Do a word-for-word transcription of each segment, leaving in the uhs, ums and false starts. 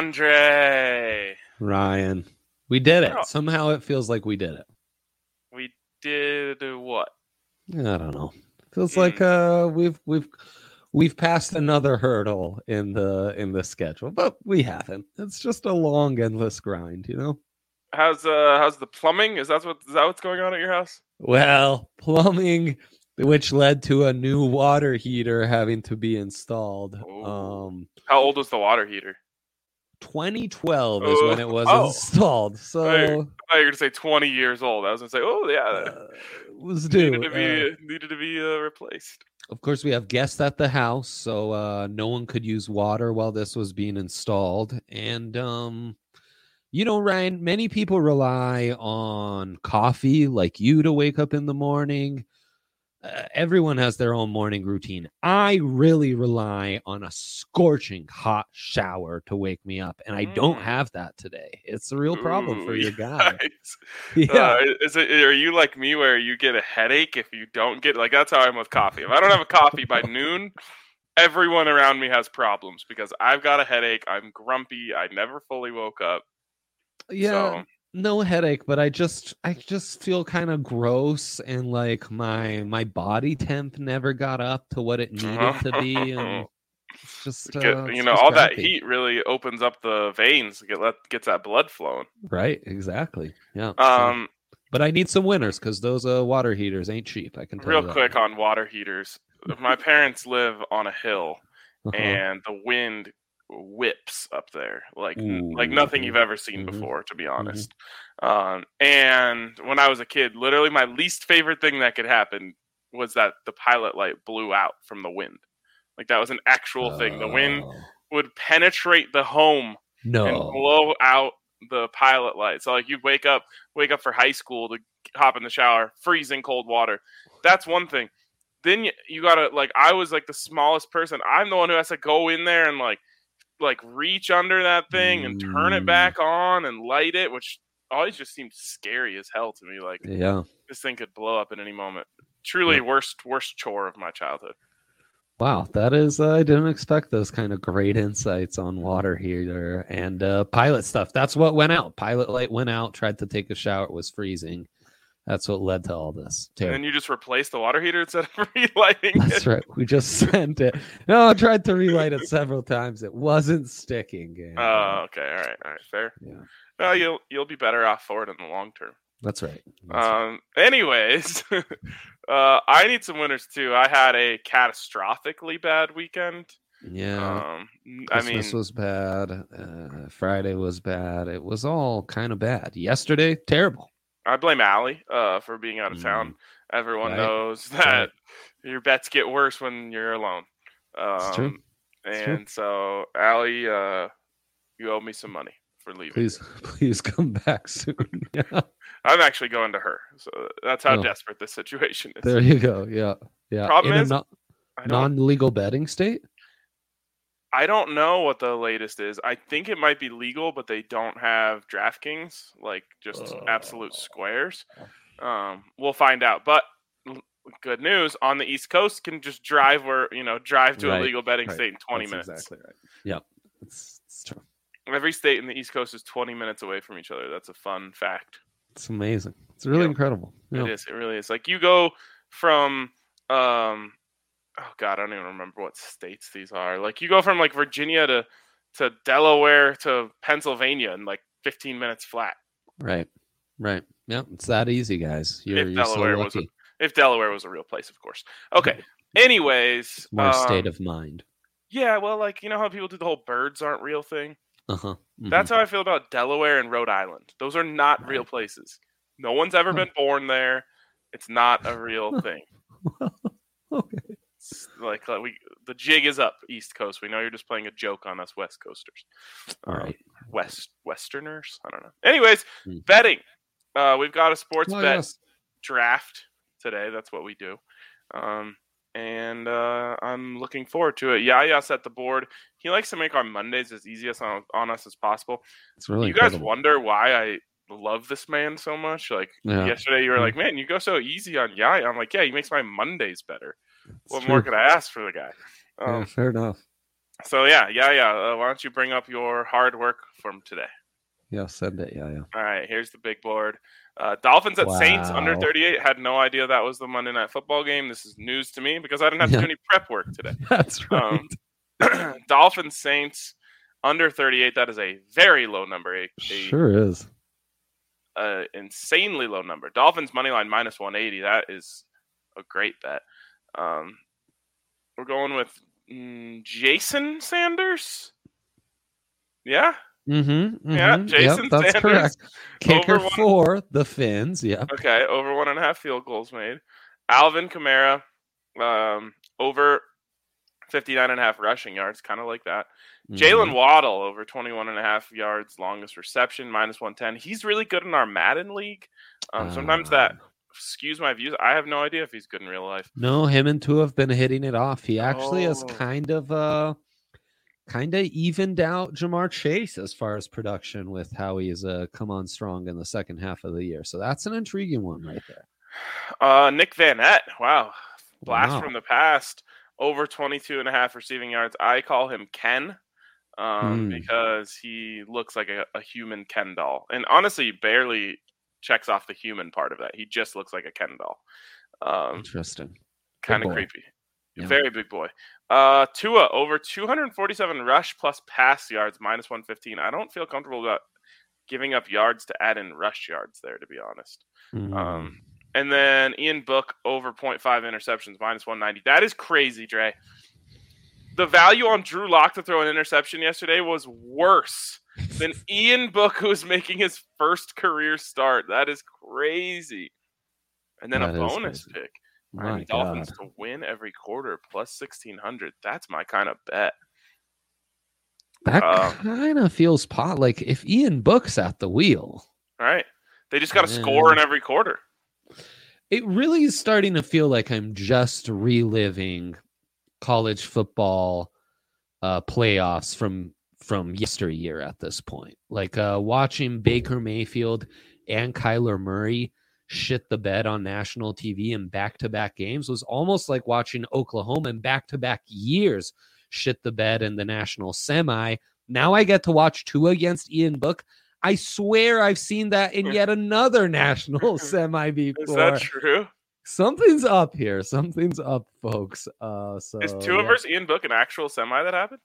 Andre. Ryan. We did it. Oh. Somehow it feels like we did it. We did what? I don't know. Feels Mm. like uh we've we've we've passed another hurdle in the in the schedule, but we haven't. It's just a long, endless grind, you know? How's uh how's the plumbing? Is that what is that what's going on at your house? Well, plumbing, which led to a new water heater having to be installed. Ooh. Um How old was the water heater? twenty twelve Oh. is when it was Oh. installed. So I thought you were gonna say twenty years old. I was gonna say, oh yeah, uh, it was due. needed to be Uh, needed to be uh, replaced. Of course, we have guests at the house, so uh, no one could use water while this was being installed. And, um, you know, Ryan, many people rely on coffee like you to wake up in the morning. Uh, everyone has their own morning routine. I really rely on a scorching hot shower to wake me up, and I mm. don't have that today. It's a real problem Ooh, for your guy. Yeah, uh, is it? Are you like me, where you get a headache if you don't get like? That's how I'm with coffee. If I don't have a coffee by noon, everyone around me has problems because I've got a headache. I'm grumpy. I never fully woke up. Yeah. So. No headache, but I just I just feel kind of gross, and like my my body temp never got up to what it needed to be, and it's just uh, Get, it's you know just all crappy. that heat really opens up the veins, get let gets that blood flowing. Right, exactly. Yeah. Um, so, but I need some winners because those uh, water heaters ain't cheap. I can tell real you that. quick on water heaters. My parents live on a hill, uh-huh. and the wind whips up there like Ooh. like nothing you've ever seen mm-hmm. before, to be honest. Mm-hmm. Um, and when I was a kid, literally my least favorite thing that could happen was that the pilot light blew out from the wind. Like that was an actual oh. thing. The wind would penetrate the home no. and blow out the pilot light. So like you'd wake up, wake up for high school to hop in the shower, freezing cold water. That's one thing. Then you, you gotta like I was like the smallest person. I'm the one who has to go in there and like like reach under that thing and turn it back on and light it, which always just seemed scary as hell to me. Like, yeah, this thing could blow up at any moment. Truly yeah. worst worst chore of my childhood. Wow, that is uh, I didn't expect those kind of great insights on water heater and uh, pilot stuff. That's what went out. Pilot light went out. Tried to take a shower. It was freezing. That's what led to all this. And then you just replaced the water heater instead of relighting That's it. That's right. We just sent it. No, I tried to relight it several times. It wasn't sticking. Oh, uh, okay. All right. All right. Fair. Yeah. Well, you'll you'll be better off for it in the long term. That's right. That's um. Right. Anyways, uh, I need some winners too. I had a catastrophically bad weekend. Yeah. Um. Christmas I mean, was bad. Uh, Friday was bad. It was all kind of bad. Yesterday, terrible. I blame Allie uh, for being out of town. Mm. Everyone right. knows that right. your bets get worse when you're alone. Um, it's true. It's and true. so, Allie, uh, you owe me some money for leaving. Please, please come back soon. Yeah. I'm actually going to her. So that's how oh. desperate this situation is. There you go. Yeah. Yeah. Problem In is, a no- non-legal betting state? I don't know what the latest is. I think it might be legal, but they don't have DraftKings, like just uh, absolute squares. Um, we'll find out. But good news, on the East Coast, can just drive where you know drive to right, a legal betting right. state in twenty That's minutes. Exactly right. Yep, it's, it's true. Every state in the East Coast is twenty minutes away from each other. That's a fun fact. It's amazing. It's really yep. incredible. Yep. It is. It really is. Like you go from. Um, Oh God, I don't even remember what states these are. Like you go from like Virginia to, to Delaware to Pennsylvania in like fifteen minutes flat. Right, right. Yeah, it's that easy, guys. You're, if you're Delaware so was a, if Delaware was a real place, of course. Okay. Anyways, more um, state of mind. Yeah, well, like you know how people do the whole birds aren't real thing. Uh huh. Mm-hmm. That's how I feel about Delaware and Rhode Island. Those are not right. real places. No one's ever been born there. It's not a real thing. Okay. Like, like we, the jig is up, East Coast. We know you're just playing a joke on us West Coasters. All right, um, West Westerners. I don't know. Anyways, mm. betting. Uh, we've got a sports oh, bet yes. draft today. That's what we do, um, and uh, I'm looking forward to it. Yaya set the board. He likes to make our Mondays as easy as on, on us as possible. It's really. You incredible. guys wonder why I love this man so much? Like yeah. yesterday, you were like, "Man, you go so easy on Yaya." I'm like, "Yeah, he makes my Mondays better." It's what true. more could I ask for the guy? Um, yeah, fair enough. So yeah, yeah, yeah. Uh, why don't you bring up your hard work from today? Yeah, send it. Yeah, yeah. All right, here's the big board. Uh, Dolphins at Saints under Wow. thirty-eight. Had no idea that was the Monday Night Football game. This is news to me because I didn't have to Yeah, do any prep work today. that's right. Um, Dolphins Saints under thirty-eight. That is a very low number. A, a Sure is. uh, insanely low number. Dolphins money line minus one eighty. That is a great bet. Um, we're going with mm, Jason Sanders. Yeah, Mm-hmm, mm-hmm. yeah, Jason Yep, that's Sanders. correct. Kicker Over one- for the Finns. Yep. Okay, over one and a half field goals made. Alvin Kamara, um, over fifty-nine and a half rushing yards, kind of like that. Jalen Mhm. Waddle, over twenty-one and a half yards, longest reception, minus one ten. He's really good in our Madden league. Um, sometimes that Ah. skews my views. I have no idea if he's good in real life. No, him and Tua have been hitting it off. He actually has Oh. kind of uh kind of evened out Jamar Chase as far as production with how he's uh come on strong in the second half of the year. So that's an intriguing one right there. Uh, Nick Van Nett, wow. Blast Wow. from the past, over twenty-two and a half receiving yards. I call him Ken um, Hmm. because he looks like a, a human Ken doll. And honestly, barely checks off the human part of that. He just looks like a Ken doll. Um, Interesting. kind of boy. creepy. Yeah. Very big boy. Uh, Tua, over two hundred forty-seven rush plus pass yards, minus one fifteen. I don't feel comfortable about giving up yards to add in rush yards there, to be honest. Hmm. Um, and then Ian Book, over zero point five interceptions, minus one ninety. That is crazy, Dre. The value on Drew Lock to throw an interception yesterday was worse than Ian Book, who was making his first career start. That is crazy. And then That a is bonus crazy. pick. My Miami God. Dolphins to win every quarter, plus sixteen hundred. That's my kind of bet. That Um, kind of feels pot like if Ian Book's at the wheel. All right. They just got to Yeah. score in every quarter. It really is starting to feel like I'm just reliving college football uh, playoffs from from yesteryear at this point. Like uh, watching Baker Mayfield and Kyler Murray shit the bed on national T V in back-to-back games was almost like watching Oklahoma in back-to-back years shit the bed in the national semi. Now I get to watch two against Ian Book. I swear I've seen that in yet another national semi before. Is that true? Something's up here. Something's up, folks. Uh, so Is Tua yeah. versus Ian Book an actual semi that happened?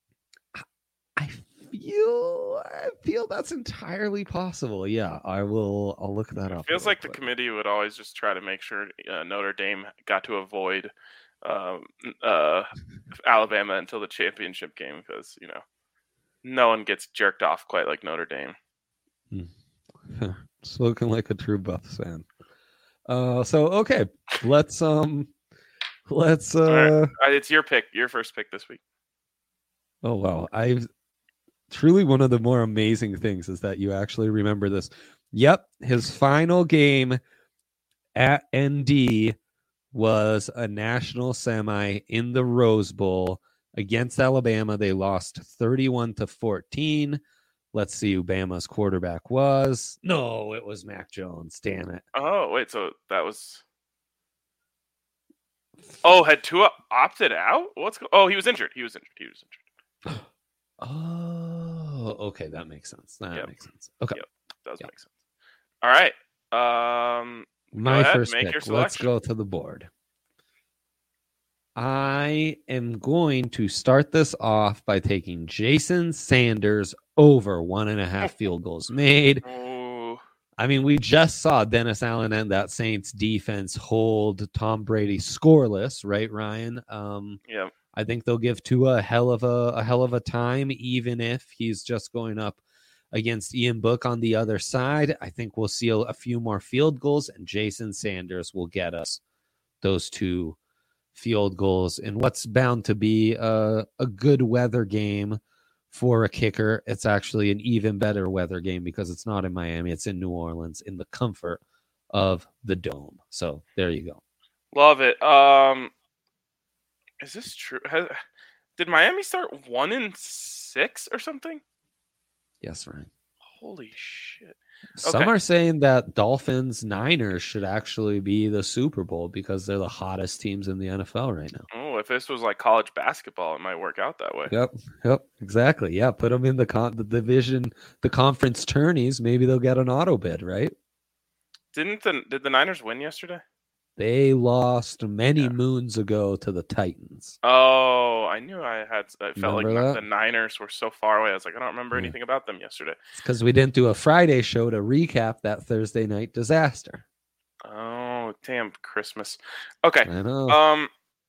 I feel I feel that's entirely possible. Yeah, I will. I'll look that up. It feels real like the quick. committee would always just try to make sure uh, Notre Dame got to avoid um, uh, Alabama until the championship game because, you know, no one gets jerked off quite like Notre Dame. Spoken like a true Buffs fan. Uh, so okay, let's um, let's uh. All right. Uh, It's your pick, your first pick this week. Oh wow, I've truly one of the more amazing things is that you actually remember this. Yep, his final game at N D was a national semi in the Rose Bowl against Alabama. They lost thirty-one to fourteen. Let's see who Bama's quarterback was. No, it was Mac Jones. Damn it. Oh, wait, so that was... Oh, had Tua opted out? What's go- Oh, he was injured. He was injured. He was injured. Oh, okay. That makes sense. That Yep. makes sense. Okay. Yep. Does Yep. make sense. All right. Um, My ahead, first make pick. your Let's selection. go to the board. I am going to start this off by taking Jason Sanders over one and a half field goals made. ooh, I mean, we just saw Dennis Allen and that Saints defense hold Tom Brady scoreless, right, Ryan? Um, yeah. I think they'll give Tua a hell of a, a hell of a time, even if he's just going up against Ian Book on the other side. I think we'll see a, a few more field goals, and Jason Sanders will get us those two field goals in what's bound to be a, a good weather game for a kicker. It's actually an even better weather game because it's not in Miami. It's in New Orleans in the comfort of the dome. So there you go. Love it. Um, is this true? Has, did Miami start one in six or something? Yes, Ryan. Holy shit! Some Okay. are saying that Dolphins Niners should actually be the Super Bowl because they're the hottest teams in the N F L right now. Oh, if this was like college basketball, it might work out that way. Yep, yep, exactly. Yeah, put them in the con- the division, the conference tourneys. Maybe they'll get an auto bid, right? Didn't the did the Niners win yesterday? They lost many Yeah. moons ago to the Titans. Oh, I knew I had. I felt Remember like that? the Niners were so far away. I was like, I don't remember Yeah. anything about them yesterday. It's because we didn't do a Friday show to recap that Thursday night disaster. Oh, damn Christmas. Okay. I know. Um,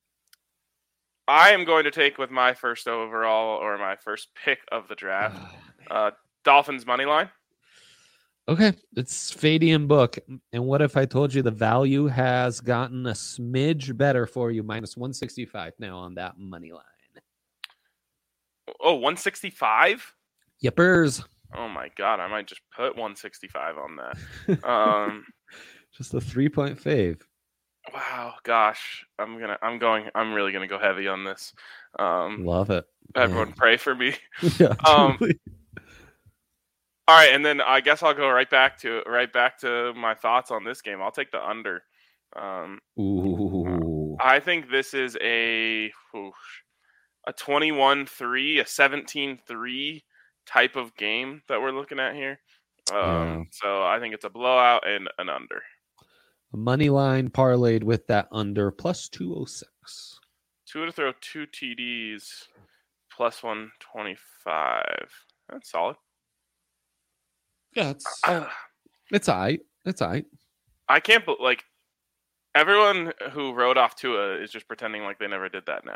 I am going to take with my first overall or my first pick of the draft, uh, Dolphins money line. Okay, it's Fadian book. And what if I told you the value has gotten a smidge better for you, minus one sixty-five now on that money line? Oh, one sixty-five? Yippers. Oh my God, I might just put one sixty-five on that. Um, just a three-point fave. Wow, gosh, I'm gonna, I'm going, I'm really gonna go heavy on this. Um, Love it. Everyone, Man. pray for me. Yeah, um, truly. all right, and then I guess I'll go right back to right back to my thoughts on this game. I'll take the under. Um, Ooh. I think this is a whoosh, a twenty-one three, a seventeen three type of game that we're looking at here. Um, Yeah. So I think it's a blowout and an under. A money line parlayed with that under plus two oh six. Two to throw two T Ds plus one twenty-five. That's solid. Yeah, it's Uh, it's all right. It's all right. I can't believe, like, everyone who wrote off Tua is just pretending like they never did that now.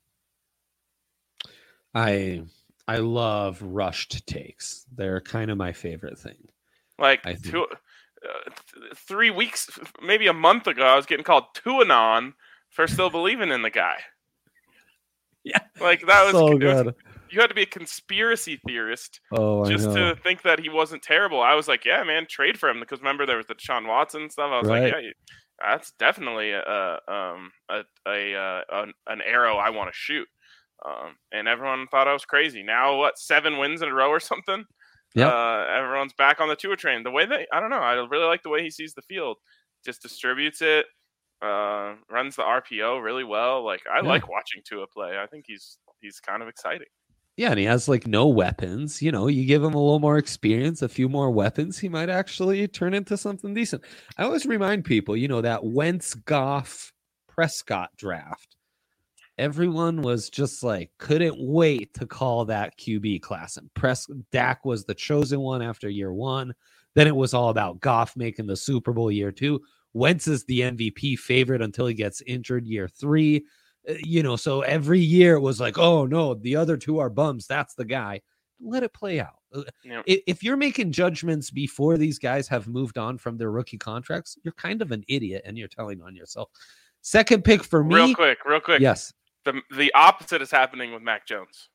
I I love rushed takes. They're kind of my favorite thing. Like, I think- Tua, uh, th- three weeks, maybe a month ago, I was getting called Tuanon for still believing in the guy. Yeah, like that was so it was- good. you had to be a conspiracy theorist Oh, I just know. to think that he wasn't terrible. I was like, yeah, man, trade for him, because remember there was the Deshaun Watson stuff. I was Right. like, yeah, you- that's definitely a um a a uh, an, an arrow I want to shoot. Um, and everyone thought I was crazy. Now what? Seven wins in a row or something. Yep. Uh, everyone's back on the Tua train. The way that I don't know, I really like the way he sees the field. Just distributes it. Uh, runs the R P O really well. Like I Yeah. like watching Tua play. I think he's he's kind of exciting. Yeah, and he has like no weapons. You know, you give him a little more experience, a few more weapons, he might actually turn into something decent. I always remind people, you know, that Wentz, Goff, Prescott draft. Everyone was just like, couldn't wait to call that Q B class. And Pres- Dak was the chosen one after year one. Then it was all about Goff making the Super Bowl year two. Wentz is the M V P favorite until he gets injured year three. Uh, You know, so every year it was like, oh no, the other two are bums. That's the guy. Let it play out. Uh, Yeah. i- If you're making judgments before these guys have moved on from their rookie contracts, you're kind of an idiot and you're telling on yourself. Second pick for me. Real quick, real quick. Yes. The the opposite is happening with Mac Jones.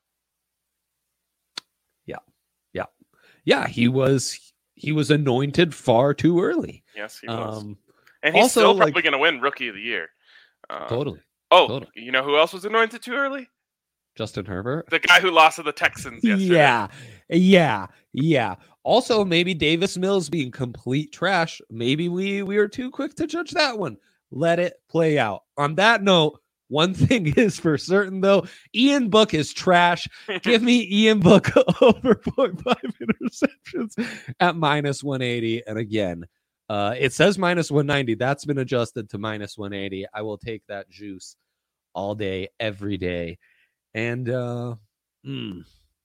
Yeah, he was he was anointed far too early. Yes, he was. Um, and he's also, still like- probably going to win Rookie of the Year. Um, totally. Oh, totally. you know who else was anointed too early? Justin Herbert. The guy who lost to the Texans yesterday. Yeah, yeah, yeah. Also, maybe Davis Mills being complete trash. Maybe we we were too quick to judge that one. Let it play out. On that note, one thing is for certain though, Ian Book is trash. Give me Ian Book over point five interceptions at minus one eighty. And again, uh, it says minus one ninety. That's been adjusted to minus one eighty. I will take that juice all day, every day. And uh, hmm.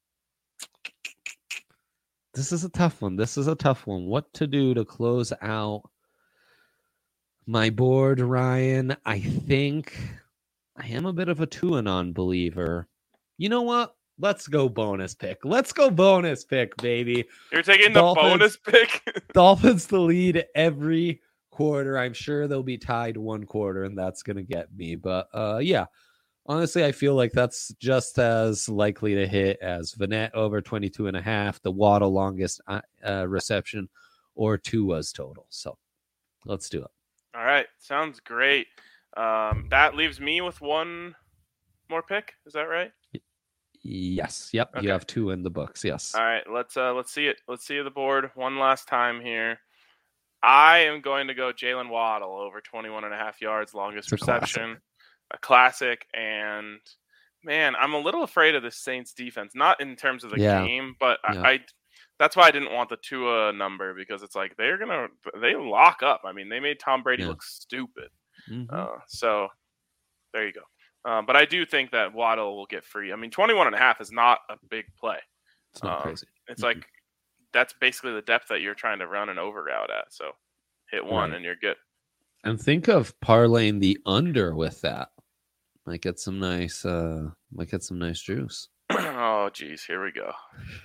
This is a tough one. This is a tough one. What to do to close out my board, Ryan? I think I am a bit of a two-and-on believer. You know what? Let's go bonus pick. Let's go bonus pick, baby. You're taking the Dolphins. bonus pick? Dolphins to lead every quarter. I'm sure they'll be tied one quarter, and that's going to get me. But uh, yeah, honestly, I feel like that's just as likely to hit as Vanette over twenty-two and a half, the Waddle longest uh, uh, reception, or Tua's total. So let's do it. All right. Sounds great. Um, that leaves me with one more pick. Is that right? Yes. Yep. Okay. You have two in the books. Yes. All right. Let's uh, let's see it. Let's see the board one last time here. I am going to go Jalen Waddle over twenty-one and a half yards, longest It's a classic. reception. a classic. And man, I'm a little afraid of the Saints defense, not in terms of the Yeah. game, but Yeah. I, I that's why I didn't want the Tua number, because it's like they're gonna they lock up. I mean, they made Tom Brady Yeah. look stupid. Mhm. Uh, so there you go. Um, but I do think that Waddle will get free. I mean, twenty-one and a half is not a big play. It's not Um, crazy. It's Mhm. like that's basically the depth that you're trying to run an over route at. So hit one Right. and you're good. And think of parlaying the under with that. Might get some nice uh might get some nice juice. Oh geez, here we go.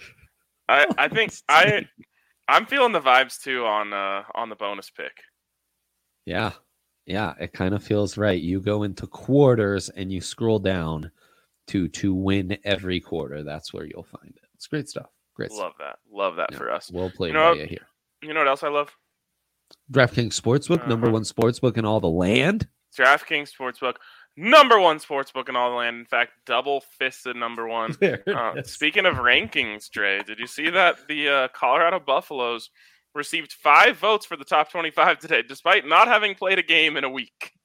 I I think I I'm feeling the vibes too on uh on the bonus pick. Yeah. Yeah, it kind of feels right. You go into quarters and you scroll down to to win every quarter. That's where you'll find it. It's great stuff. Great stuff. Love that. Love that Yeah, for us. well played You know by what- you here. You know what else I love? DraftKings Sportsbook, number Uh-huh. one sportsbook in all the land. DraftKings Sportsbook, number one sportsbook in all the land. In fact, double fisted number one. There it Uh, is. speaking of rankings, Dre, did you see that the uh, Colorado Buffaloes received five votes for the top twenty-five today, despite not having played a game in a week?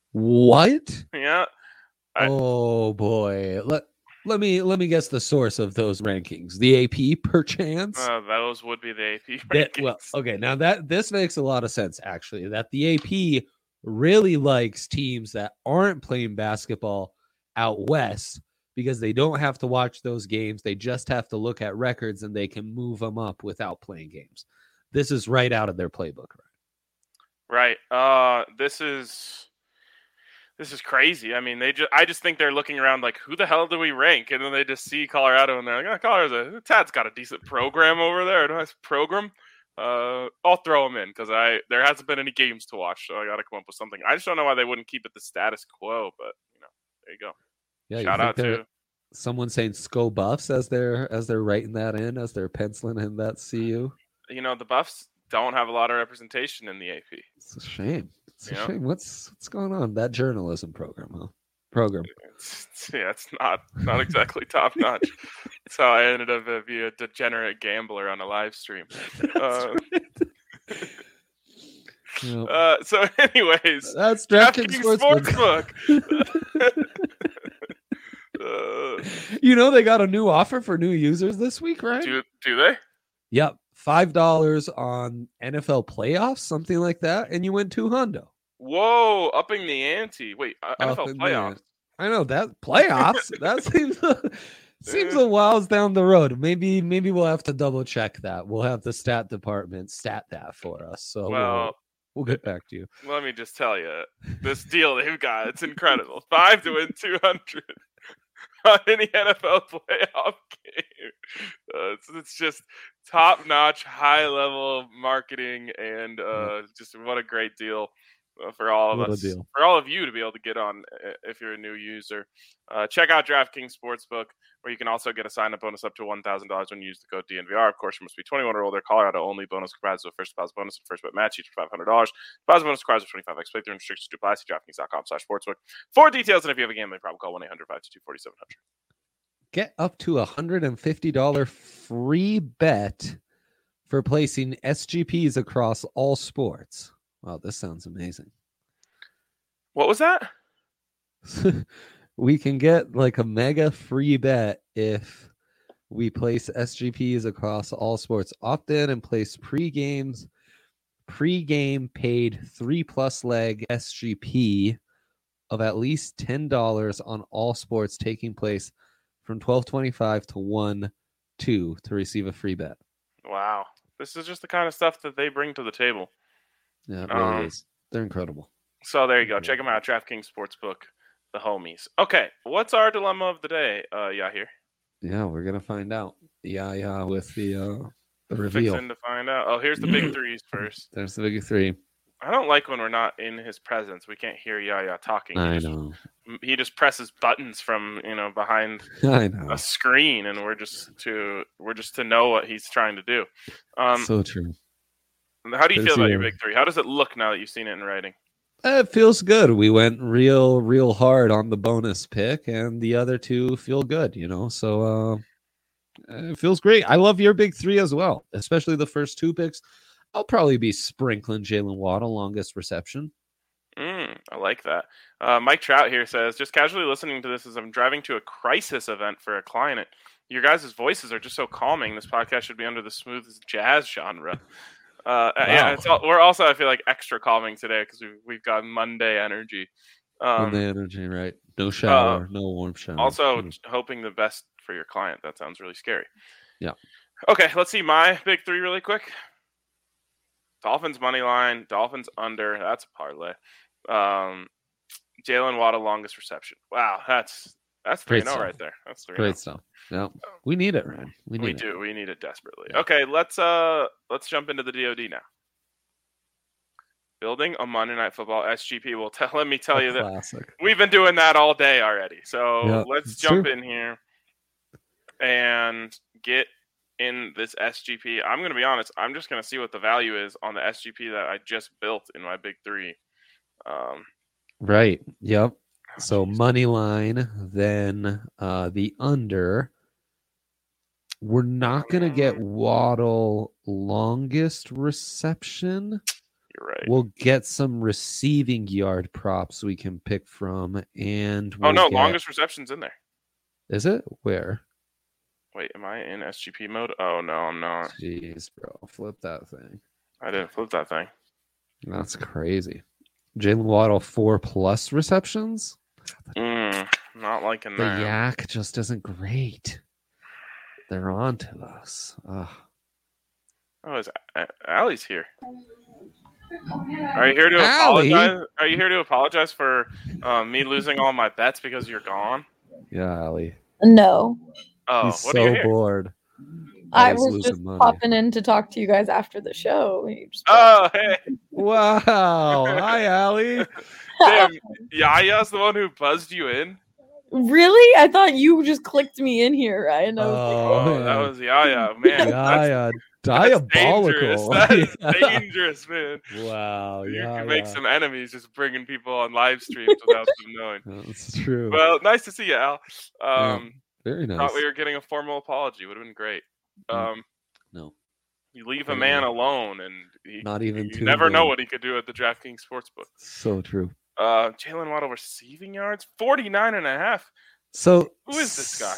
What? Yeah. I- Oh boy. Let let me let me guess the source of those rankings. The A P perchance? Uh, those would be the A P That- rankings. well, okay, now that this makes a lot of sense actually. That the A P really likes teams that aren't playing basketball out west because they don't have to watch those games. They just have to look at records and they can move them up without playing games. This is right out of their playbook, right? Right. Uh, this is this is crazy. I mean, they just I just think they're looking around like, who the hell do we rank? And then they just see Colorado and they're like, oh, Colorado's a Tad's got a decent program over there, a nice program. Uh, I'll throw them in because I there hasn't been any games to watch, so I got to come up with something. I just don't know why they wouldn't keep it the status quo, but you know, there you go. Yeah, you Shout think out they're- to someone saying Sco Buffs as they're as they're writing that in, as they're penciling in that C U. you know the Buffs don't have a lot of representation in the A P. It's a shame. It's a Yeah. shame. What's what's going on? That journalism program, huh? Program. It's, it's- yeah, it's not not exactly top notch. That's how I ended up uh, being a degenerate gambler on a live stream. Uh, Yep. uh, so, anyways, That's DraftKings DraftKings Sportsbook. Sportsbook. uh, You know they got a new offer for new users this week, right? do do they? Yep, five dollars on N F L playoffs, something like that, and you win two hundo. Whoa, upping the ante. Wait, uh, N F L Up in the playoffs. ante. I know that playoffs. that seems seems a whiles down the road. Maybe maybe we'll have to double check that. We'll have the stat department stat that for us. So we'll, Well, we'll get back to you. let me just tell you, this deal they've got, it's incredible. Five to win two hundred on any N F L playoff game. Uh, it's, it's just top-notch, high-level marketing, and uh, just what a great deal uh, for all of What a us, deal. for all of you to be able to get on uh, if you're a new user. Uh, check out DraftKings Sportsbook, where you can also get a sign-up bonus up to one thousand dollars when you use the code D N V R. Of course, you must be twenty-one or older. Colorado only. Bonus comprised of a first deposit bonus and first bet match, each for five hundred dollars. Deposit bonus requires a twenty-five x playthrough. Restrictions to apply. See DraftKings.com slash sportsbook for details. And if you have a gambling problem, call one eight hundred five two two four seven zero zero. Get up to a hundred and fifty dollar free bet for placing S G Ps across all sports. Wow, this sounds amazing. What was that? We can get like a mega free bet if we place S G Ps across all sports. Opt in and place pre-games, pre-game paid three plus leg S G P of at least ten dollars on all sports taking place from twelve twenty-five to one two to receive a free bet. Wow. This is just the kind of stuff that they bring to the table. Yeah, it really Um, is. They're incredible. So there you go. Check them out. DraftKings Sportsbook, the homies. Okay, what's our dilemma of the day, uh, Yahir? Yeah, we're gonna find out. Yeah, yeah, with the uh the reveal. Fixing to find out. Oh, here's the big threes first. There's the big three. I don't like when we're not in his presence. We can't hear Yaya talking. He I just, know. He just presses buttons from you know behind I know. a screen, and we're just to we're just to know what he's trying to do. Um, So true. how do you good feel to about see your you. big three? How does it look now that you've seen it in writing? It feels good. We went real, real hard on the bonus pick, and the other two feel good, you know. So uh it feels great. I love your big three as well, especially the first two picks. I'll probably be sprinkling Jalen Waddle longest reception. Mm, I like that. Uh, Mike Trout here says, just casually listening to this as I'm driving to a crisis event for a client. Your guys' voices are just so calming. This podcast should be under the smooth jazz genre. Uh, wow. Yeah, it's all, we're also, I feel like, extra calming today because we've, we've got Monday energy. Um, Monday energy, right? No shower, uh, no warm shower. Also, mm. hoping the best for your client. That sounds really scary. Yeah. Okay, let's see my big three really quick. Dolphins money line, Dolphins under. That's a parlay. Um, Jalen Waddle longest reception. Wow, that's that's three and zero right there. That's three. Great stuff. Yeah, we need it, Ryan. We need we it. do. We need it desperately. Yeah. Okay, let's uh let's jump into the D O D now. Building a Monday Night Football S G P. Well, tell, let me tell a you classic. that we've been doing that all day already. So yeah, let's jump true. in here and get in this S G P. I'm going to be honest. I'm just going to see what the value is on the S G P that I just built in my big three. Um, right. Yep. So money line, then uh, the under. We're not going to get Waddle longest reception. You're right. We'll get some receiving yard props we can pick from. And we'll oh, no. get... longest reception's in there. Is it? Where? Wait, am I in S G P mode? Oh, no, I'm not. Jeez, bro. Flip that thing. I didn't flip that thing. That's crazy. Jalen Waddle, four plus receptions? Mm, not liking the that. The yak just isn't great. They're on to us. Ugh. Oh, is Allie's here? Are you here to Allie? apologize? Are you here to apologize for um, me losing all my bets because you're gone? Yeah, Allie. No. Oh, He's what so are you here? bored. I was just money. popping in to talk to you guys after the show. Oh, hey. Wow. Hi, Allie. Damn, Yaya's the one who buzzed you in? Really? I thought you just clicked me in here, Ryan. I was oh, like, oh, that was Yaya. Man, Yaya. Diabolical. That's dangerous. That's dangerous, man. Wow. You yeah, can make yeah. some enemies just bringing people on live streams without them knowing. That's true. Well, nice to see you, Al. Um, yeah, very nice. Thought we were getting a formal apology. Would have been great. Um, no. You leave a man alone, and he, not even. You never know what he could do at the DraftKings Sportsbook. So true. Uh, Jalen Waddle receiving yards, forty-nine and a half. So who is this guy?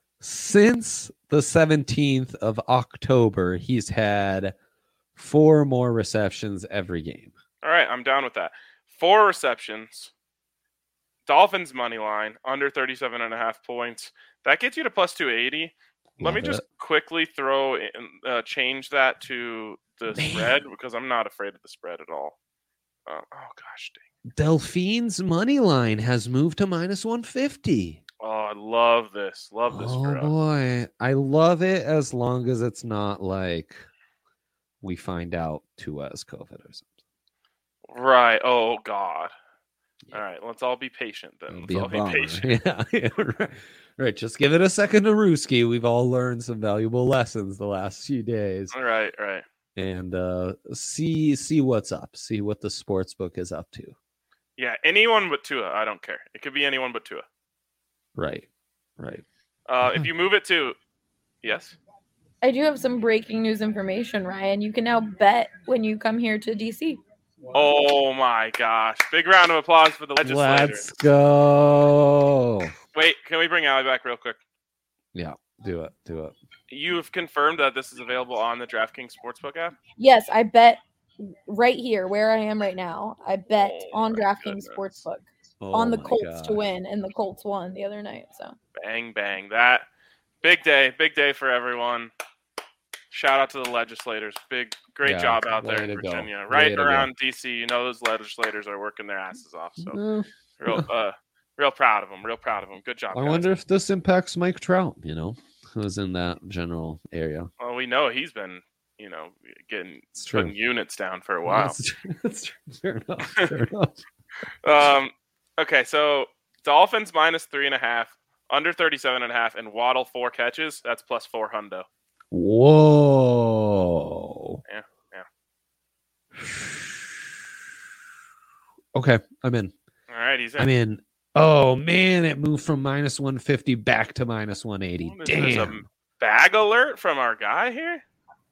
Since the seventeenth of October, he's had four more receptions every game. All right, I'm down with that. Four receptions. Dolphins money line, under thirty-seven and a half points. That gets you to plus two eighty. Let Love me just it. quickly throw in, uh, change that to the Man. spread because I'm not afraid of the spread at all. Uh, oh, gosh, dang. Delphine's money line has moved to minus one fifty. Oh, I love this. Love this oh, for us. boy. I love it as long as it's not like we find out Tua has COVID or something. Right. Oh, God. All right. Let's all be patient then. Let's be all be patient. Yeah. yeah right. right. Just give it a second to Ruski. We've all learned some valuable lessons the last few days. All right. Right. And uh, see see what's up. See what the sports book is up to. Yeah. Anyone but Tua. I don't care. It could be anyone but Tua. Right. Right. Uh, if you move it to, yes. I do have some breaking news information, Ryan. You can now bet when you come here to D C. Oh my gosh! Big round of applause for the legislators. Let's go. Wait, can we bring Allie back real quick? Yeah, do it. Do it. You've confirmed that this is available on the DraftKings Sportsbook app? Yes, I bet right here where I am right now. I bet oh on DraftKings Sportsbook oh on the Colts God. to win, and the Colts won the other night. So bang bang, that big day, big day for everyone. Shout out to the legislators. Big, great yeah, job out there in Virginia. Go. Right around D C, you know those legislators are working their asses off. So mm. real, uh, real proud of them. Real proud of them. Good job. I guys. wonder if this impacts Mike Trout. You know, who's in that general area. Well, we know he's been, you know, getting putting units down for a while. That's true. That's true. Fair enough. Fair enough. um. Okay, so Dolphins minus three and a half, under thirty-seven and a half, and Waddle four catches. That's plus four hundo. Whoa. Yeah, yeah. Okay, I'm in. All right, he's in. I'm in. Oh, man, it moved from minus one fifty back to minus one eighty. Well, Damn. There's a bag alert from our guy here?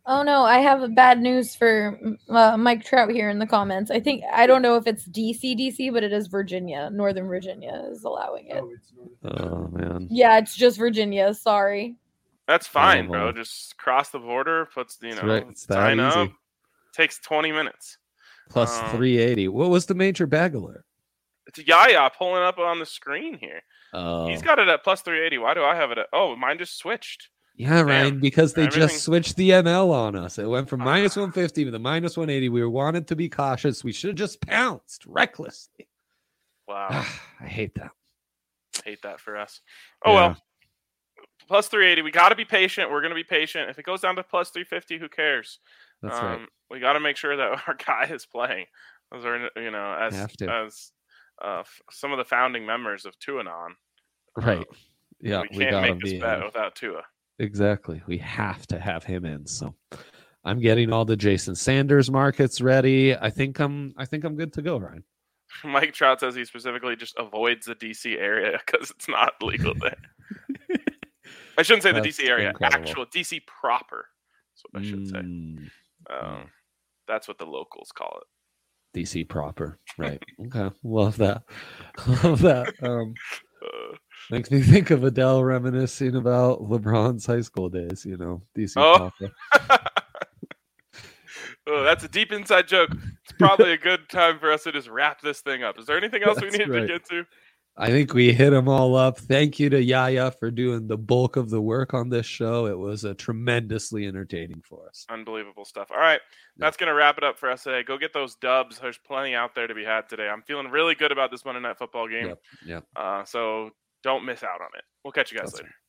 Oh no, I have bad news for uh, Mike Trout here in the comments. I think I don't know if it's D C, D C, but it is Virginia. Northern Virginia is allowing it. Oh man. Yeah, it's just Virginia. Sorry. That's fine, Oh, bro. well. Just cross the border, puts you That's know, right. It's that sign easy. up. Takes twenty minutes. Plus Um, three eighty. What was the major bag alert? It's Yaya pulling up on the screen here. Oh. He's got it at plus three eighty. Why do I have it at? Oh, mine just switched. Yeah, Ryan, because they Everything- just switched the M L on us. It went from Ah. minus one fifty to the minus one eighty. We wanted to be cautious. We should have just pounced recklessly. Wow, I hate that. hate that for us. Oh Yeah. well, plus three eighty. We got to be patient. We're gonna be patient. If it goes down to plus three fifty, who cares? That's um, right. We got to make sure that our guy is playing. Those are, you know, as Have to. as uh, f- some of the founding members of Tuanon. Right. Um, Yeah, we we, can't gotta make this be bet uh, without Tua. exactly. We have to have him in. So I'm getting all the Jason Sanders markets ready. I think I'm I think I'm good to go, Ryan. Mike Trout says he specifically just avoids the D C area because it's not legal there. I shouldn't say the That's D C area, incredible. actual D C proper. That's what I should say. Mm, Um, that's what the locals call it. D C proper. Right. Okay. Love that. Love that. Um Uh, makes me think of Adele reminiscing about LeBron's high school days, you know, D C Oh. proper. oh, that's a deep inside joke. It's probably a good time for us to just wrap this thing up. Is there anything else we That's need right. to get to? I think we hit them all up. Thank you to Yaya for doing the bulk of the work on this show. It was a tremendously entertaining for us. Unbelievable stuff. All right. That's going to wrap it up for us today. Go get those dubs. There's plenty out there to be had today. I'm feeling really good about this Monday Night Football game. Yep. Yep. Uh, so don't miss out on it. We'll catch you guys That's later.